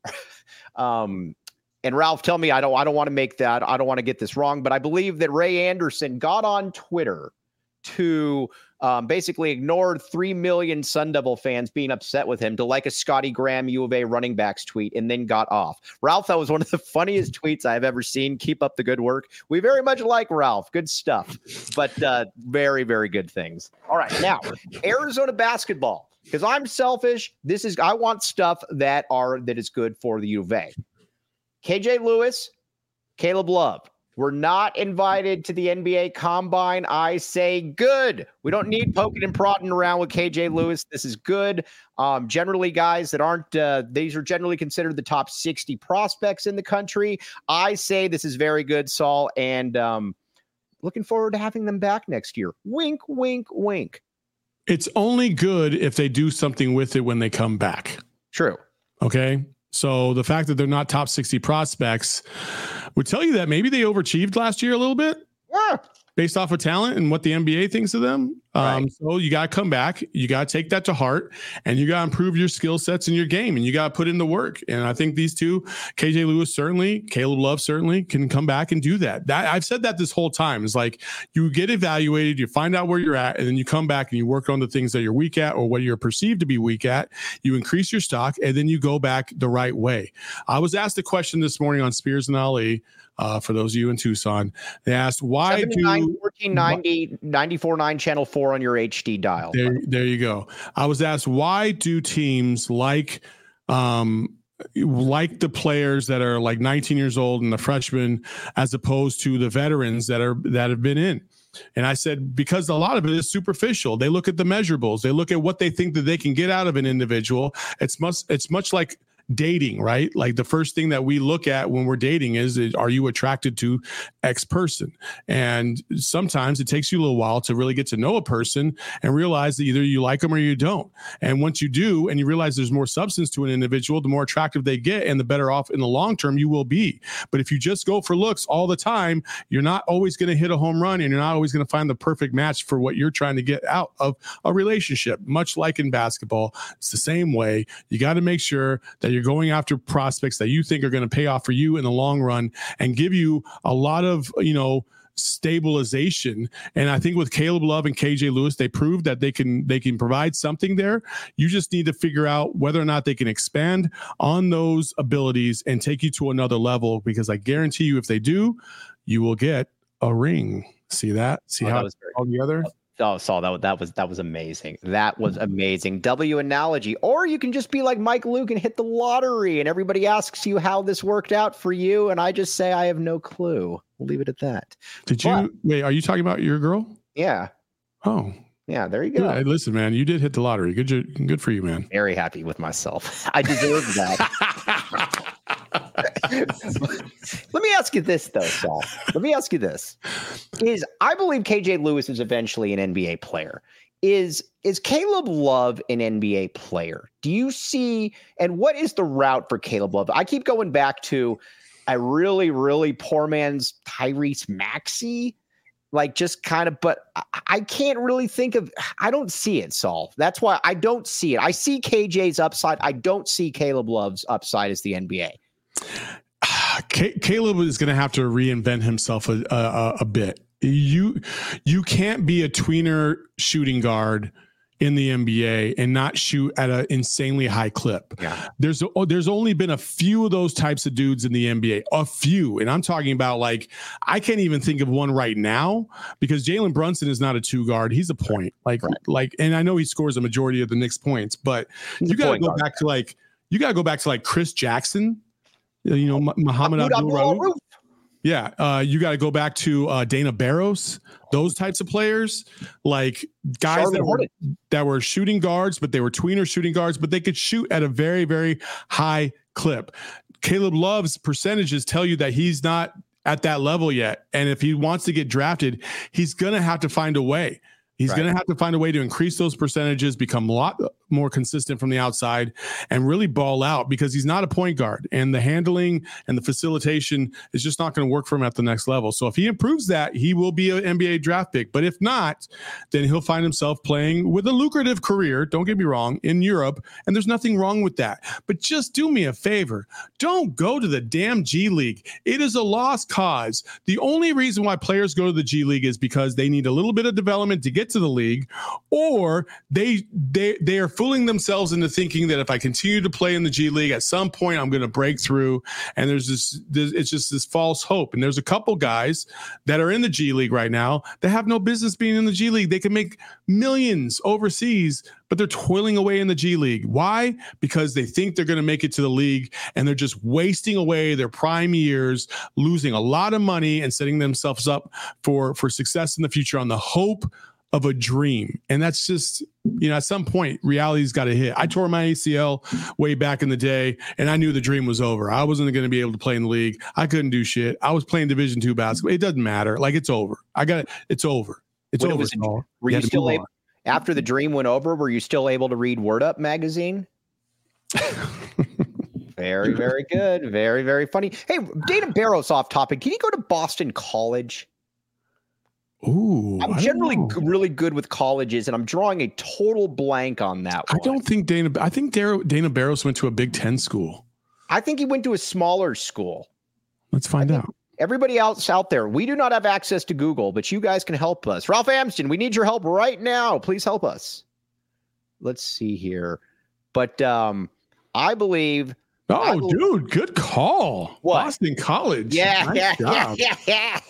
um, And Ralph, tell me, I don't, I don't want to make that, I don't want to get this wrong, but I believe that Ray Anderson got on Twitter to um, basically ignore three million Sun Devil fans being upset with him to like a Scotty Graham U of A running backs tweet and then got off. Ralph, that was one of the funniest tweets I've ever seen. Keep up the good work. We very much like Ralph. Good stuff, but uh, very, very good things. All right. Now, Arizona basketball, because I'm selfish. This is, I want stuff that are, that is good for the U of A. K J Lewis, Caleb Love. We're not invited to the N B A Combine. I say good. We don't need poking and prodding around with K J Lewis. This is good. Um, generally, guys that aren't, uh, these are generally considered the top sixty prospects in the country. I say this is very good, Saul, and um, looking forward to having them back next year. Wink, wink, wink. It's only good if they do something with it when they come back. True. Okay. So the fact that they're not top sixty prospects would tell you that maybe they overachieved last year a little bit yeah. based off of talent and what the N B A thinks of them. Um, Right. So you got to come back. You got to take that to heart, and you got to improve your skill sets in your game, and you got to put in the work. And I think these two, K J Lewis certainly, Caleb Love certainly, can come back and do that. That I've said that this whole time. It's like you get evaluated, you find out where you're at, and then you come back and you work on the things that you're weak at or what you're perceived to be weak at. You increase your stock, and then you go back the right way. I was asked a question this morning on Spears and Ali. Uh, for those of you in Tucson, they asked why do fourteen ninety ninety-four point nine channel four on your H D dial. There, there you go. I was asked why do teams like um, like the players that are like nineteen years old and the freshmen as opposed to the veterans that are that have been in. And I said, because a lot of it is superficial. They look at the measurables. They look at what they think that they can get out of an individual. It's much, it's much like dating, right? Like the first thing that we look at when we're dating is, is are you attracted to X person? And sometimes it takes you a little while to really get to know a person and realize that either you like them or you don't. And once you do, and you realize there's more substance to an individual, the more attractive they get and the better off in the long term you will be. But if you just go for looks all the time, you're not always going to hit a home run, and you're not always going to find the perfect match for what you're trying to get out of a relationship. Much like in basketball, it's the same way. You got to make sure that you're going after prospects that you think are going to pay off for you in the long run and give you a lot of, you know, stabilization. And I think with Caleb Love and K J Lewis, they proved that they can they can provide something there. You just need to figure out whether or not they can expand on those abilities and take you to another level, because I guarantee you if they do, you will get a ring. See that? See Oh, how that was it's very- all together? Oh, Saul, that, that was that was amazing. That was amazing. W analogy. Or you can just be like Mike Luke and hit the lottery, and everybody asks you how this worked out for you, and I just say I have no clue. We'll leave it at that. Did you But- wait? Are you talking about your girl? Yeah. Oh, Yeah, there you go. yeah. Listen, man, you did hit the lottery. Good, jo- good for you, man. Very happy with myself. I deserve that. Let me ask you this, though, Saul. Let me ask you this. Is I believe K J Lewis is eventually an N B A player. Is is Caleb Love an N B A player? Do you see, and what is the route for Caleb Love? I keep going back to a really, really poor man's Tyrese Maxey. Like just kind of, but I, I can't really think of, I don't see it, Saul. That's why I don't see it. I see K J's upside. I don't see Caleb Love's upside as the N B A. C- Caleb is going to have to reinvent himself a, a, a bit. You you can't be a tweener shooting guard in the N B A and not shoot at an insanely high clip. Yeah. There's there's only been a few of those types of dudes in the N B A, a few. And I'm talking about, like, I can't even think of one right now because Jalen Brunson is not a two guard. He's a point. Like, Right. like, and I know he scores a majority of the Knicks points, but He's you a got to point go guard. back to like, you got to go back to like Chris Jackson, you know, M- Muhammad Abdul Abdul-Rauf. Rauf. Yeah, uh, you got to go back to uh, Dana Barros, those types of players, like guys Charlotte that were, Hornets. that were shooting guards, but they were tweener shooting guards, but they could shoot at a very, very high clip. Caleb Love's percentages tell you that he's not at that level yet. And if he wants to get drafted, he's going to have to find a way. He's Right. going to have to find a way to increase those percentages, become a lot more consistent from the outside, and really ball out, because he's not a point guard, and the handling and the facilitation is just not going to work for him at the next level. So if he improves that, he will be an N B A draft pick. But if not, then he'll find himself playing with a lucrative career, don't get me wrong, in Europe, and there's nothing wrong with that. But just do me a favor. Don't go to the damn G League. It is a lost cause. The only reason why players go to the G League is because they need a little bit of development to get to the league, or they they they are fooling themselves into thinking that if I continue to play in the G League, at some point I'm going to break through. And there's this, this, it's just this false hope. And there's a couple guys that are in the G League right now that have no business being in the G League. They can make millions overseas, but they're toiling away in the G League. Why? Because they think they're going to make it to the league, and they're just wasting away their prime years, losing a lot of money and setting themselves up for, for success in the future on the hope of a dream. And that's just, you know, at some point reality's got to hit. I tore my A C L way back in the day, and I knew the dream was over. I wasn't going to be able to play in the league. I couldn't do shit. I was playing Division two basketball. It doesn't matter. Like, it's over. I got it. It's over. It's When it over. was a- Saul. Were You you had to still move able, after the dream went over, were you still able to read Word Up magazine? Very, very good. Very, very funny. Hey, Dana Barros off topic. Can you go to Boston College? Ooh, I'm I generally don't g- know. really good with colleges, and I'm drawing a total blank on that I one. don't think Dana. I think Dana, Dana Barros went to a Big Ten school. I think he went to a smaller school. Let's find out. Everybody else out there, we do not have access to Google, but you guys can help us. Ralph Amsden, we need your help right now. Please help us. Let's see here. But um, I believe. Oh, I believe, dude, good call. What? Boston College. Yeah, Nice yeah, job. yeah, yeah,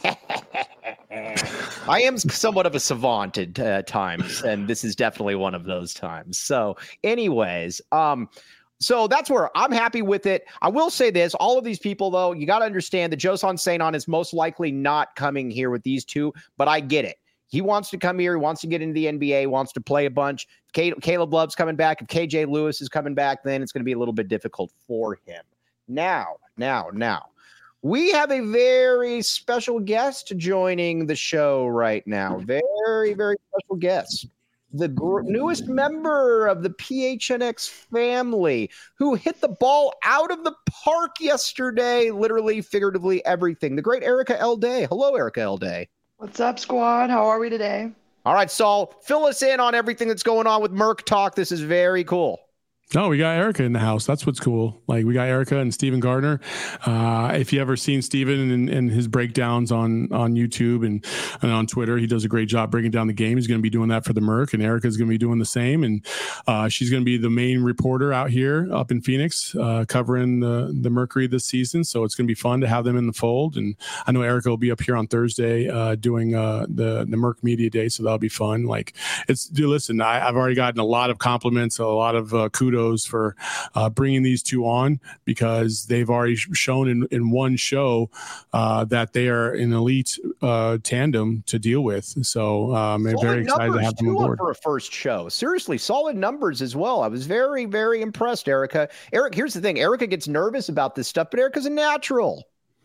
yeah. I am somewhat of a savant at uh, times, and this is definitely one of those times. So, anyways, um, so that's where I'm happy with it. I will say this: all of these people, though, you got to understand that Josan Saint-On is most likely not coming here with these two, but I get it. He wants to come here. He wants to get into the N B A, wants to play a bunch. K- Caleb Love's coming back. If K J Lewis is coming back, then it's going to be a little bit difficult for him. Now, now, now, we have a very special guest joining the show right now. Very, very special guest. The gr- newest member of the P H N X family who hit the ball out of the park yesterday, literally, figuratively, everything. The great Erica L. Day. Hello, Erica L. Day. What's up, squad? How are we today? All right, Saul, fill us in on everything that's going on with Merc Talk. This is very cool. No, we got Erica in the house. That's what's cool. Like we got Erica and Steven Gardner. Uh, if you ever seen Steven and, and his breakdowns on, on YouTube and, and on Twitter, he does a great job breaking down the game. He's going to be doing that for the Merc, and Erica's going to be doing the same. And uh, she's going to be the main reporter out here up in Phoenix, uh, covering the, the Mercury this season. So it's going to be fun to have them in the fold. And I know Erica will be up here on Thursday uh, doing uh, the, the Merc Media Day. So that'll be fun. Like it's, dude, listen, I, I've already gotten a lot of compliments, a lot of uh, kudos for uh, bringing these two on, because they've already shown in, in one show uh, that they are an elite uh, tandem to deal with. So um, I'm very excited to have them on board for a first show. Seriously, solid numbers as well. I was very, very impressed, Erica. Eric, here's the thing. Erica gets nervous about this stuff, but Erica's a natural.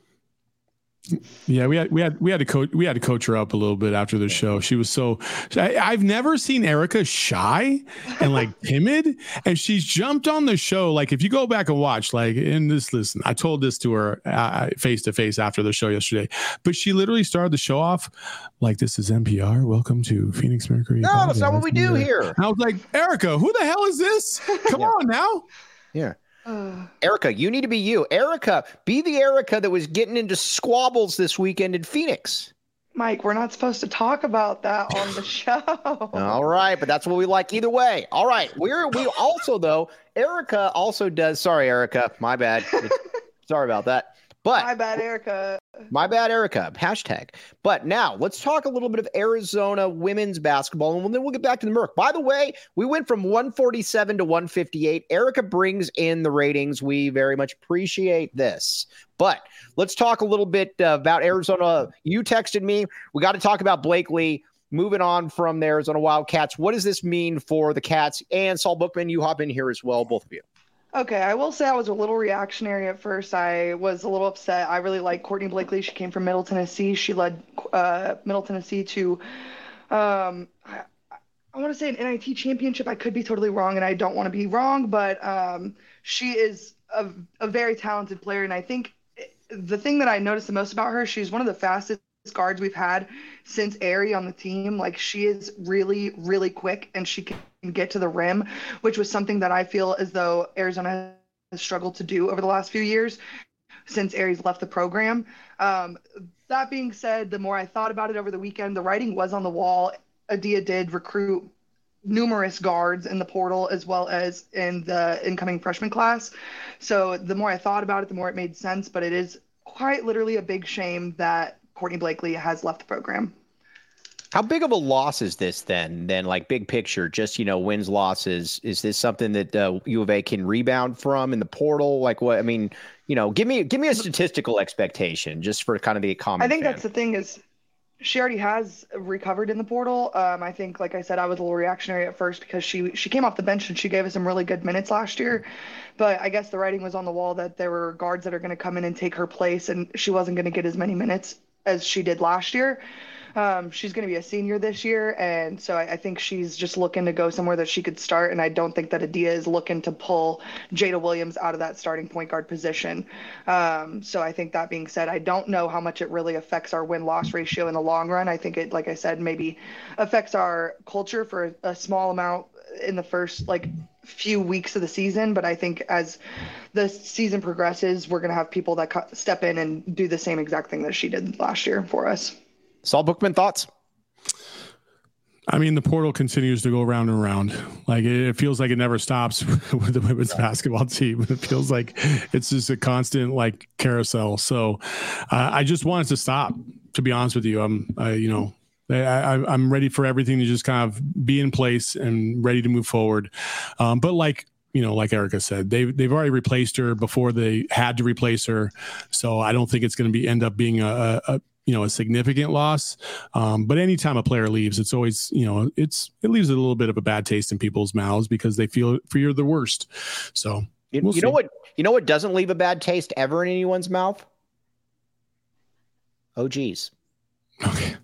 Yeah, we had we had we had to coach we had to coach her up a little bit after the show. She was so I, I've never seen Erica shy and like timid, and she's jumped on the show. Like if you go back and watch, like in this, listen, I told this to her uh, face to face after the show yesterday, but she literally started the show off like, "This is N P R. Welcome to Phoenix Mercury." No, that's not what we do here. And I was like, Erica, who the hell is this? Come Yeah. on now. Yeah. Erica, you need to be you. Erica, be the Erica that was getting into squabbles this weekend in Phoenix. Mike, we're not supposed to talk about that on the show. All right, but that's what we like either way. All right, we're we also though. Erica also does. Sorry, Erica, my bad. Sorry about that. But My bad, Erica. My bad, Erica. Hashtag. But now let's talk a little bit of Arizona women's basketball, and then we'll get back to the Merc. By the way, we went from one forty-seven to one fifty-eight. Erica brings in the ratings. We very much appreciate this. But let's talk a little bit uh, about Arizona. You texted me. We got to talk about Blakely. Moving on from the Arizona Wildcats. What does this mean for the Cats? And Saul Bookman, you hop in here as well, both of you. Okay, I will say I was a little reactionary at first. I was a little upset. I really like Courtney Blakely. She came from Middle Tennessee. She led uh, Middle Tennessee to, um, I, I want to say an N I T championship. I could be totally wrong, and I don't want to be wrong, but um, she is a, a very talented player. And I think the thing that I noticed the most about her, she's one of the fastest guards we've had since Aerie on the team. Like, she is really, really quick, and she can get to the rim, which was something that I feel as though Arizona has struggled to do over the last few years since Aerie's left the program. Um, that being said, the more I thought about it over the weekend, the writing was on the wall. Adia did recruit numerous guards in the portal as well as in the incoming freshman class. So the more I thought about it, the more it made sense, but it is quite literally a big shame that Courtney Blakely has left the program. How big of a loss is this then? Then, like, big picture, just, you know, wins, losses. Is this something that uh, U of A can rebound from in the portal? Like, what? I mean, you know, give me give me a statistical expectation just for kind of the common I think fan. that's the thing is she already has recovered in the portal. Um, I think, like I said, I was a little reactionary at first because she she came off the bench and she gave us some really good minutes last year. But I guess the writing was on the wall that there were guards that are going to come in and take her place, and she wasn't going to get as many minutes as she did last year. Um, she's going to be a senior this year, and so I, I think she's just looking to go somewhere that she could start, and I don't think that Adia is looking to pull Jada Williams out of that starting point guard position. Um, so I think that being said, I don't know how much it really affects our win-loss ratio in the long run. I think it, like I said, maybe affects our culture for a, a small amount in the first, like, few weeks of the season, but I think as the season progresses, we're going to have people that co- step in and do the same exact thing that she did last year for us. Saul Bookman, thoughts? I mean, the portal continues to go round and round. Like, it feels like it never stops with the women's basketball team. It feels like it's just a constant, like, carousel. So uh, I just want it to stop, to be honest with you. I'm, uh, you know, I, I, I'm ready for everything to just kind of be in place and ready to move forward. Um, but like, you know, like Erica said, they've, they've already replaced her before they had to replace her. So I don't think it's going to be end up being a, a you know, a significant loss. Um, but anytime a player leaves, it's always, you know, it's, it leaves a little bit of a bad taste in people's mouths because they feel fear the worst. So you, we'll you know what, you know what doesn't leave a bad taste ever in anyone's mouth? Oh, geez. Okay.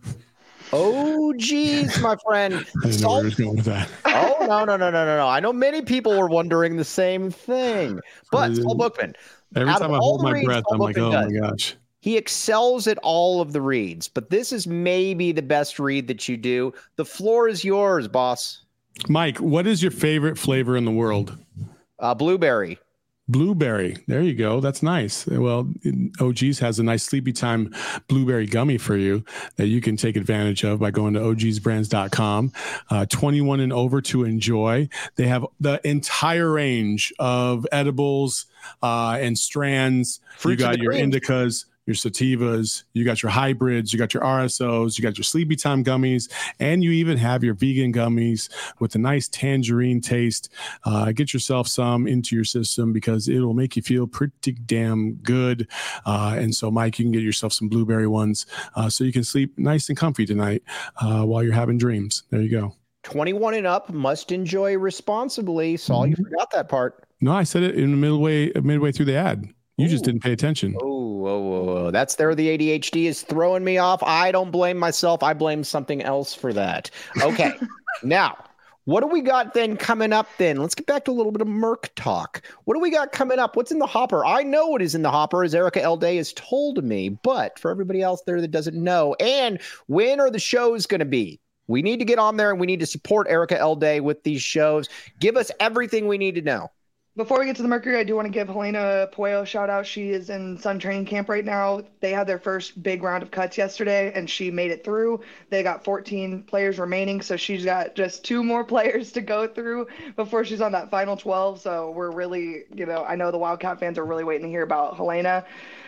Oh, geez, my friend. I didn't know where he was going with that. Oh, no, no, no, no, no, no. I know many people were wondering the same thing. But Saul Bookman. Every time I hold my breath, I'm like, oh my gosh. He excels at all of the reads, but this is maybe the best read that you do. The floor is yours, boss. Mike, what is your favorite flavor in the world? Uh, blueberry. Blueberry. There you go. That's nice. Well, O G's has a nice sleepy time blueberry gummy for you that you can take advantage of by going to O Gs brands dot com. Uh, twenty-one and over to enjoy. They have the entire range of edibles uh, and strands. Fruits you got your cream. indicas, your sativas, you got your hybrids, you got your R S Os, you got your sleepy time gummies, and you even have your vegan gummies with a nice tangerine taste. Uh, get yourself some into your system because it'll make you feel pretty damn good. Uh, and so, Mike, you can get yourself some blueberry ones uh, so you can sleep nice and comfy tonight uh, while you're having dreams. There you go. twenty-one and up, must enjoy responsibly. Saul, mm-hmm. You forgot that part. No, I said it in the midway, midway through the ad. You Ooh. Just didn't pay attention. Oh, oh, oh, that's there. The A D H D is throwing me off. I don't blame myself. I blame something else for that. Okay. Now, what do we got then coming up then? Let's get back to a little bit of Merc talk. What do we got coming up? What's in the hopper? I know what is in the hopper, as Erica L. Day has told me, but for everybody else there that doesn't know, and when are the shows going to be? We need to get on there and we need to support Erica L. Day with these shows. Give us everything we need to know. Before we get to the Mercury, I do want to give Helena Puello a shout out. She is in Sun Training Camp right now. They had their first big round of cuts yesterday, and she made it through. They got fourteen players remaining, so she's got just two more players to go through before she's on that final twelve. So we're really, you know, I know the Wildcat fans are really waiting to hear about Helena.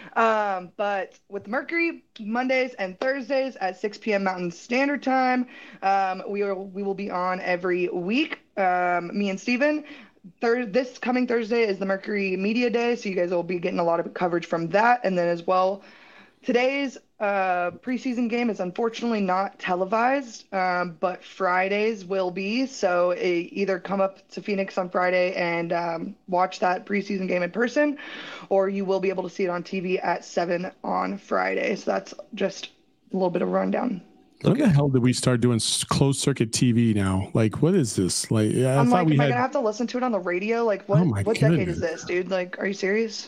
Um, but with Mercury, Mondays and Thursdays at six p.m. Mountain Standard Time, um, we, are, we will be on every week, um, me and Steven. Third, this coming Thursday is the Mercury Media Day, so you guys will be getting a lot of coverage from that. And then as well, today's uh, preseason game is unfortunately not televised, um, but Fridays will be. So it, either come up to Phoenix on Friday and um, watch that preseason game in person, or you will be able to see it on T V at seven on Friday. So that's just a little bit of a rundown. When the hell did we start doing closed circuit T V now? Like, what is this? Like, I I'm thought like, we am had... I gonna have to listen to it on the radio? Like, what? Oh my what goodness. decade is this, dude? Like, are you serious?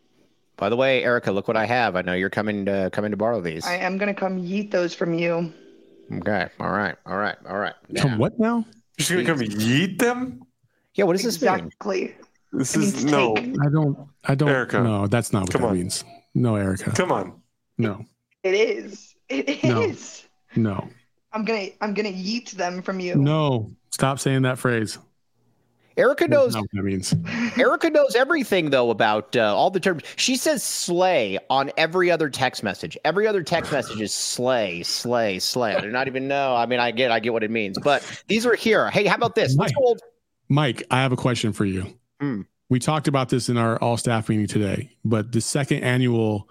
By the way, Erica, look what I have. I know you're coming to coming to borrow these. I am gonna come yeet those from you. Okay. All right. All right. All right. Come what now? You're just gonna come yeet them? Yeah. What does this mean? Exactly. This It is means no. take. I don't. I don't. Erica. No, that's not what Come that on. means. No, Erica. Come on. No. It is. It No. is. No. I'm gonna I'm gonna yeet them from you. No. Stop saying that phrase. Erica knows. That's not what that means. Erica knows everything though about uh, all the terms. She says "slay" on every other text message. Every other text message is "slay, slay, slay." I do not even know. I mean, I get, I get what it means. But these are here. Hey, how about this? Let's Mike. go old- Mike, I have a question for you. Hmm. We talked about this in our all staff meeting today, but the second annual,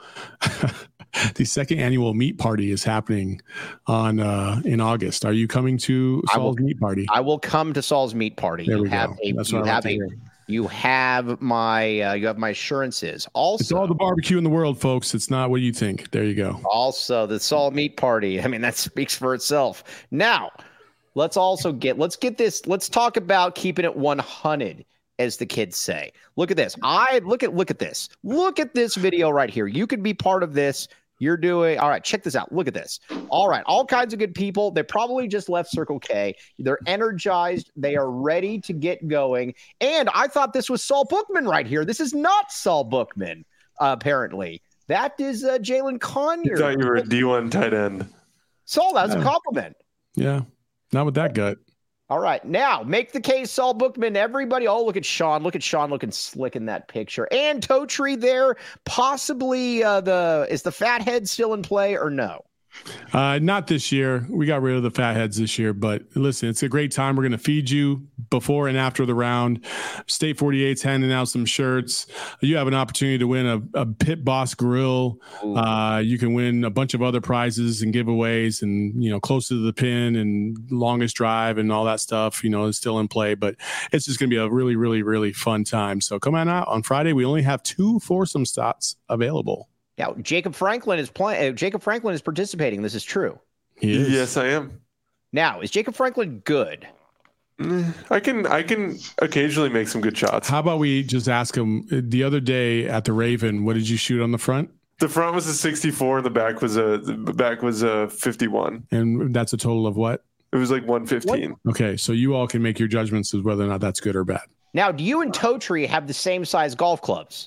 the second annual meat party is happening on uh, in August. Are you coming to I will- Saul's meat party? I will come to Saul's meat party. There You we have go. a That's you what I like have to a hear. You have my uh, you have my assurances. Also, it's all the barbecue in the world, folks. It's not what you think. There you go. Also, the Saul Meat Party. I mean, that speaks for itself. Now, let's also get let's get this. Let's talk about keeping it one hundred, as the kids say. Look at this. I look at look at this. Look at this video right here. You could be part of this. You're doing all right. Check this out. Look at this. All right. All kinds of good people. They probably just left Circle K. They're energized. They are ready to get going. And I thought this was Saul Bookman right here. This is not Saul Bookman, uh, apparently. That is uh, Jalen Conyer. I thought you were a D one tight end. Saul, that's Yeah. a compliment. Yeah. Not with that gut. All right. Now, make the case, Saul Bookman. Everybody, oh, look at Sean. Look at Sean looking slick in that picture. And Toe Tree there. Possibly uh, the, is the fathead still in play or no? Uh, not this year. We got rid of the fatheads this year, but listen, it's a great time. We're going to feed you before and after the round. State forty-eight's handing out some shirts. You have an opportunity to win a, a Pit Boss grill. Uh, you can win a bunch of other prizes and giveaways, and you know, close to the pin and longest drive and all that stuff. You know, is still in play, but it's just going to be a really, really, really fun time. So come on out on Friday. We only have two foursome spots available. Now, Jacob Franklin is playing. Uh, Jacob Franklin is participating. This is true. He is. Yes, I am. Now, is Jacob Franklin good? I can I can occasionally make some good shots. How about we just ask him the other day at the Raven, what did you shoot on the front? The front was a sixty-four, and the back was a the back was a fifty-one. And that's a total of what? It was like one fifteen. Okay, so you all can make your judgments as whether or not that's good or bad. Now, do you and Toe Tree have the same size golf clubs?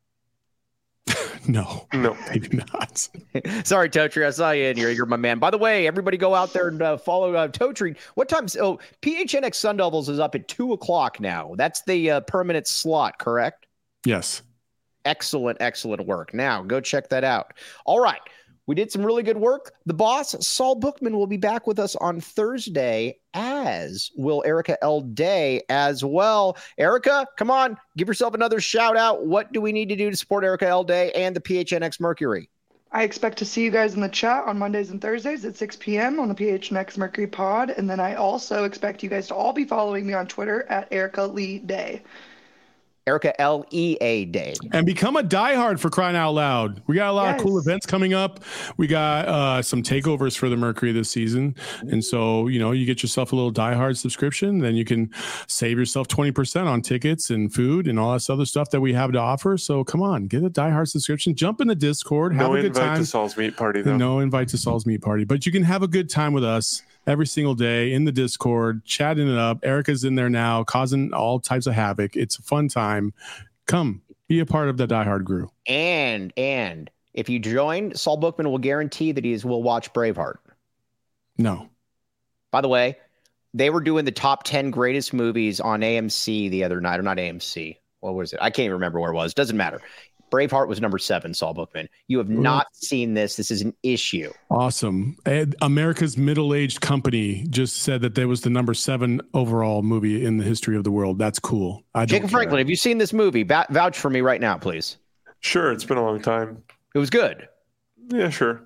No, No. they do not. Sorry, Toe Tree. I saw you in here. You're my man. By the way, everybody go out there and uh, follow uh, Toe Tree. What time? Oh, P H N X Sun Devils is up at two o'clock now. That's the uh, permanent slot, correct? Yes. Excellent, excellent work. Now, go check that out. All right. We did some really good work. The boss, Saul Bookman, will be back with us on Thursday, as will Erica L. Day as well. Erica, come on, give yourself another shout out. What do we need to do to support Erica L. Day and the P H N X Mercury? I expect to see you guys in the chat on Mondays and Thursdays at six p.m. on the P H N X Mercury Pod. And then I also expect you guys to all be following me on Twitter at Erica Lee Day. Erica L E A Day. And become a diehard, for crying out loud. We got a lot Yes. of cool events coming up. We got uh, some takeovers for the Mercury this season. And so, you know, you get yourself a little diehard subscription, then you can save yourself twenty percent on tickets and food and all this other stuff that we have to offer. So come on, get a diehard subscription, jump in the Discord, have No a good invite time. to Saul's meat party though. No invite to Saul's meat party, but you can have a good time with us every single day in the Discord, chatting it up. Erica's in there now, causing all types of havoc. It's a fun time. Come be a part of the diehard crew. And, and if you join, Saul Bookman will guarantee that he is, will watch Braveheart. No. By the way, they were doing the top ten greatest movies on A M C the other night, or not A M C. What was it? I can't even remember where it was. Doesn't matter. Braveheart was number seven, Saul Bookman. You have not seen this. This is an issue. Awesome. Ed, America's middle-aged company just said that there was the number seven overall movie in the history of the world. That's cool. I don't Jacob care. Franklin, have you seen this movie? Va- vouch for me right now, please. Sure, it's been a long time. It was good. Yeah, sure.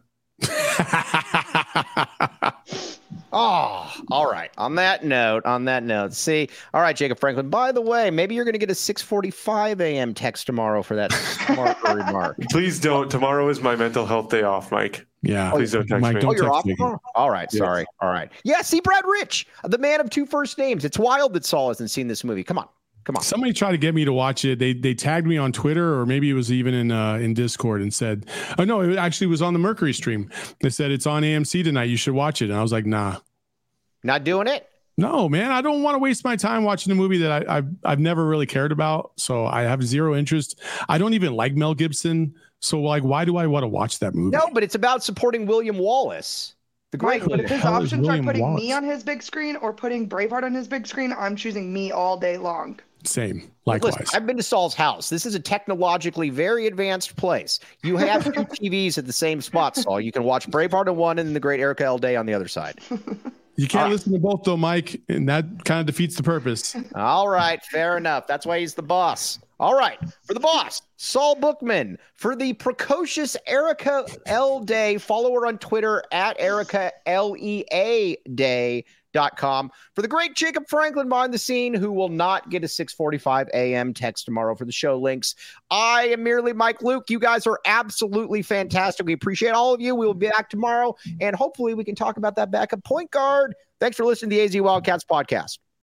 Oh, all right. On that note, on that note, see, all right, Jacob Franklin. By the way, maybe you're going to get a six forty-five a.m. text tomorrow for that smart remark. Please don't. Tomorrow is my mental health day off, Mike. Yeah. Please don't text Mike, me. don't Oh, you're text off me. tomorrow? All right, Yes. sorry. All right. Yeah, see, Brad Rich, the man of two first names. It's wild that Saul hasn't seen this movie. Come on. Come on. Somebody tried to get me to watch it. They they tagged me on Twitter, or maybe it was even in uh, in Discord, and said, "Oh no, it actually was on the Mercury stream." They said it's on A M C tonight. You should watch it. And I was like, "Nah, Not doing it? no, man. I don't want to waste my time watching a movie that I, I've I've never really cared about. So I have zero interest. I don't even like Mel Gibson. So like, why do I want to watch that movie? No, but it's about supporting William Wallace. The great Mike, but if his hell is options are William putting Wallace? me on his big screen or putting Braveheart on his big screen, I'm choosing me all day long. Same. Likewise. Listen, I've been to Saul's house. This is a technologically very advanced place. You have two T Vs at the same spot, Saul. You can watch Braveheart on one and the great Erica L. Day on the other side. You can't listen to both though, Mike, and that kind of defeats the purpose. All right, fair enough. That's why he's the boss. All right, for the boss, Saul Bookman. For the precocious Erica L. Day, follow her on Twitter at Erica L E A Day. dot com. For the great Jacob Franklin behind the scene, who will not get a six forty-five a.m. text tomorrow for the show links, I am merely Mike Luke. You guys are absolutely fantastic. We appreciate all of you. We will be back tomorrow, and hopefully we can talk about that backup point guard. Thanks for listening to the A Z Wildcats podcast.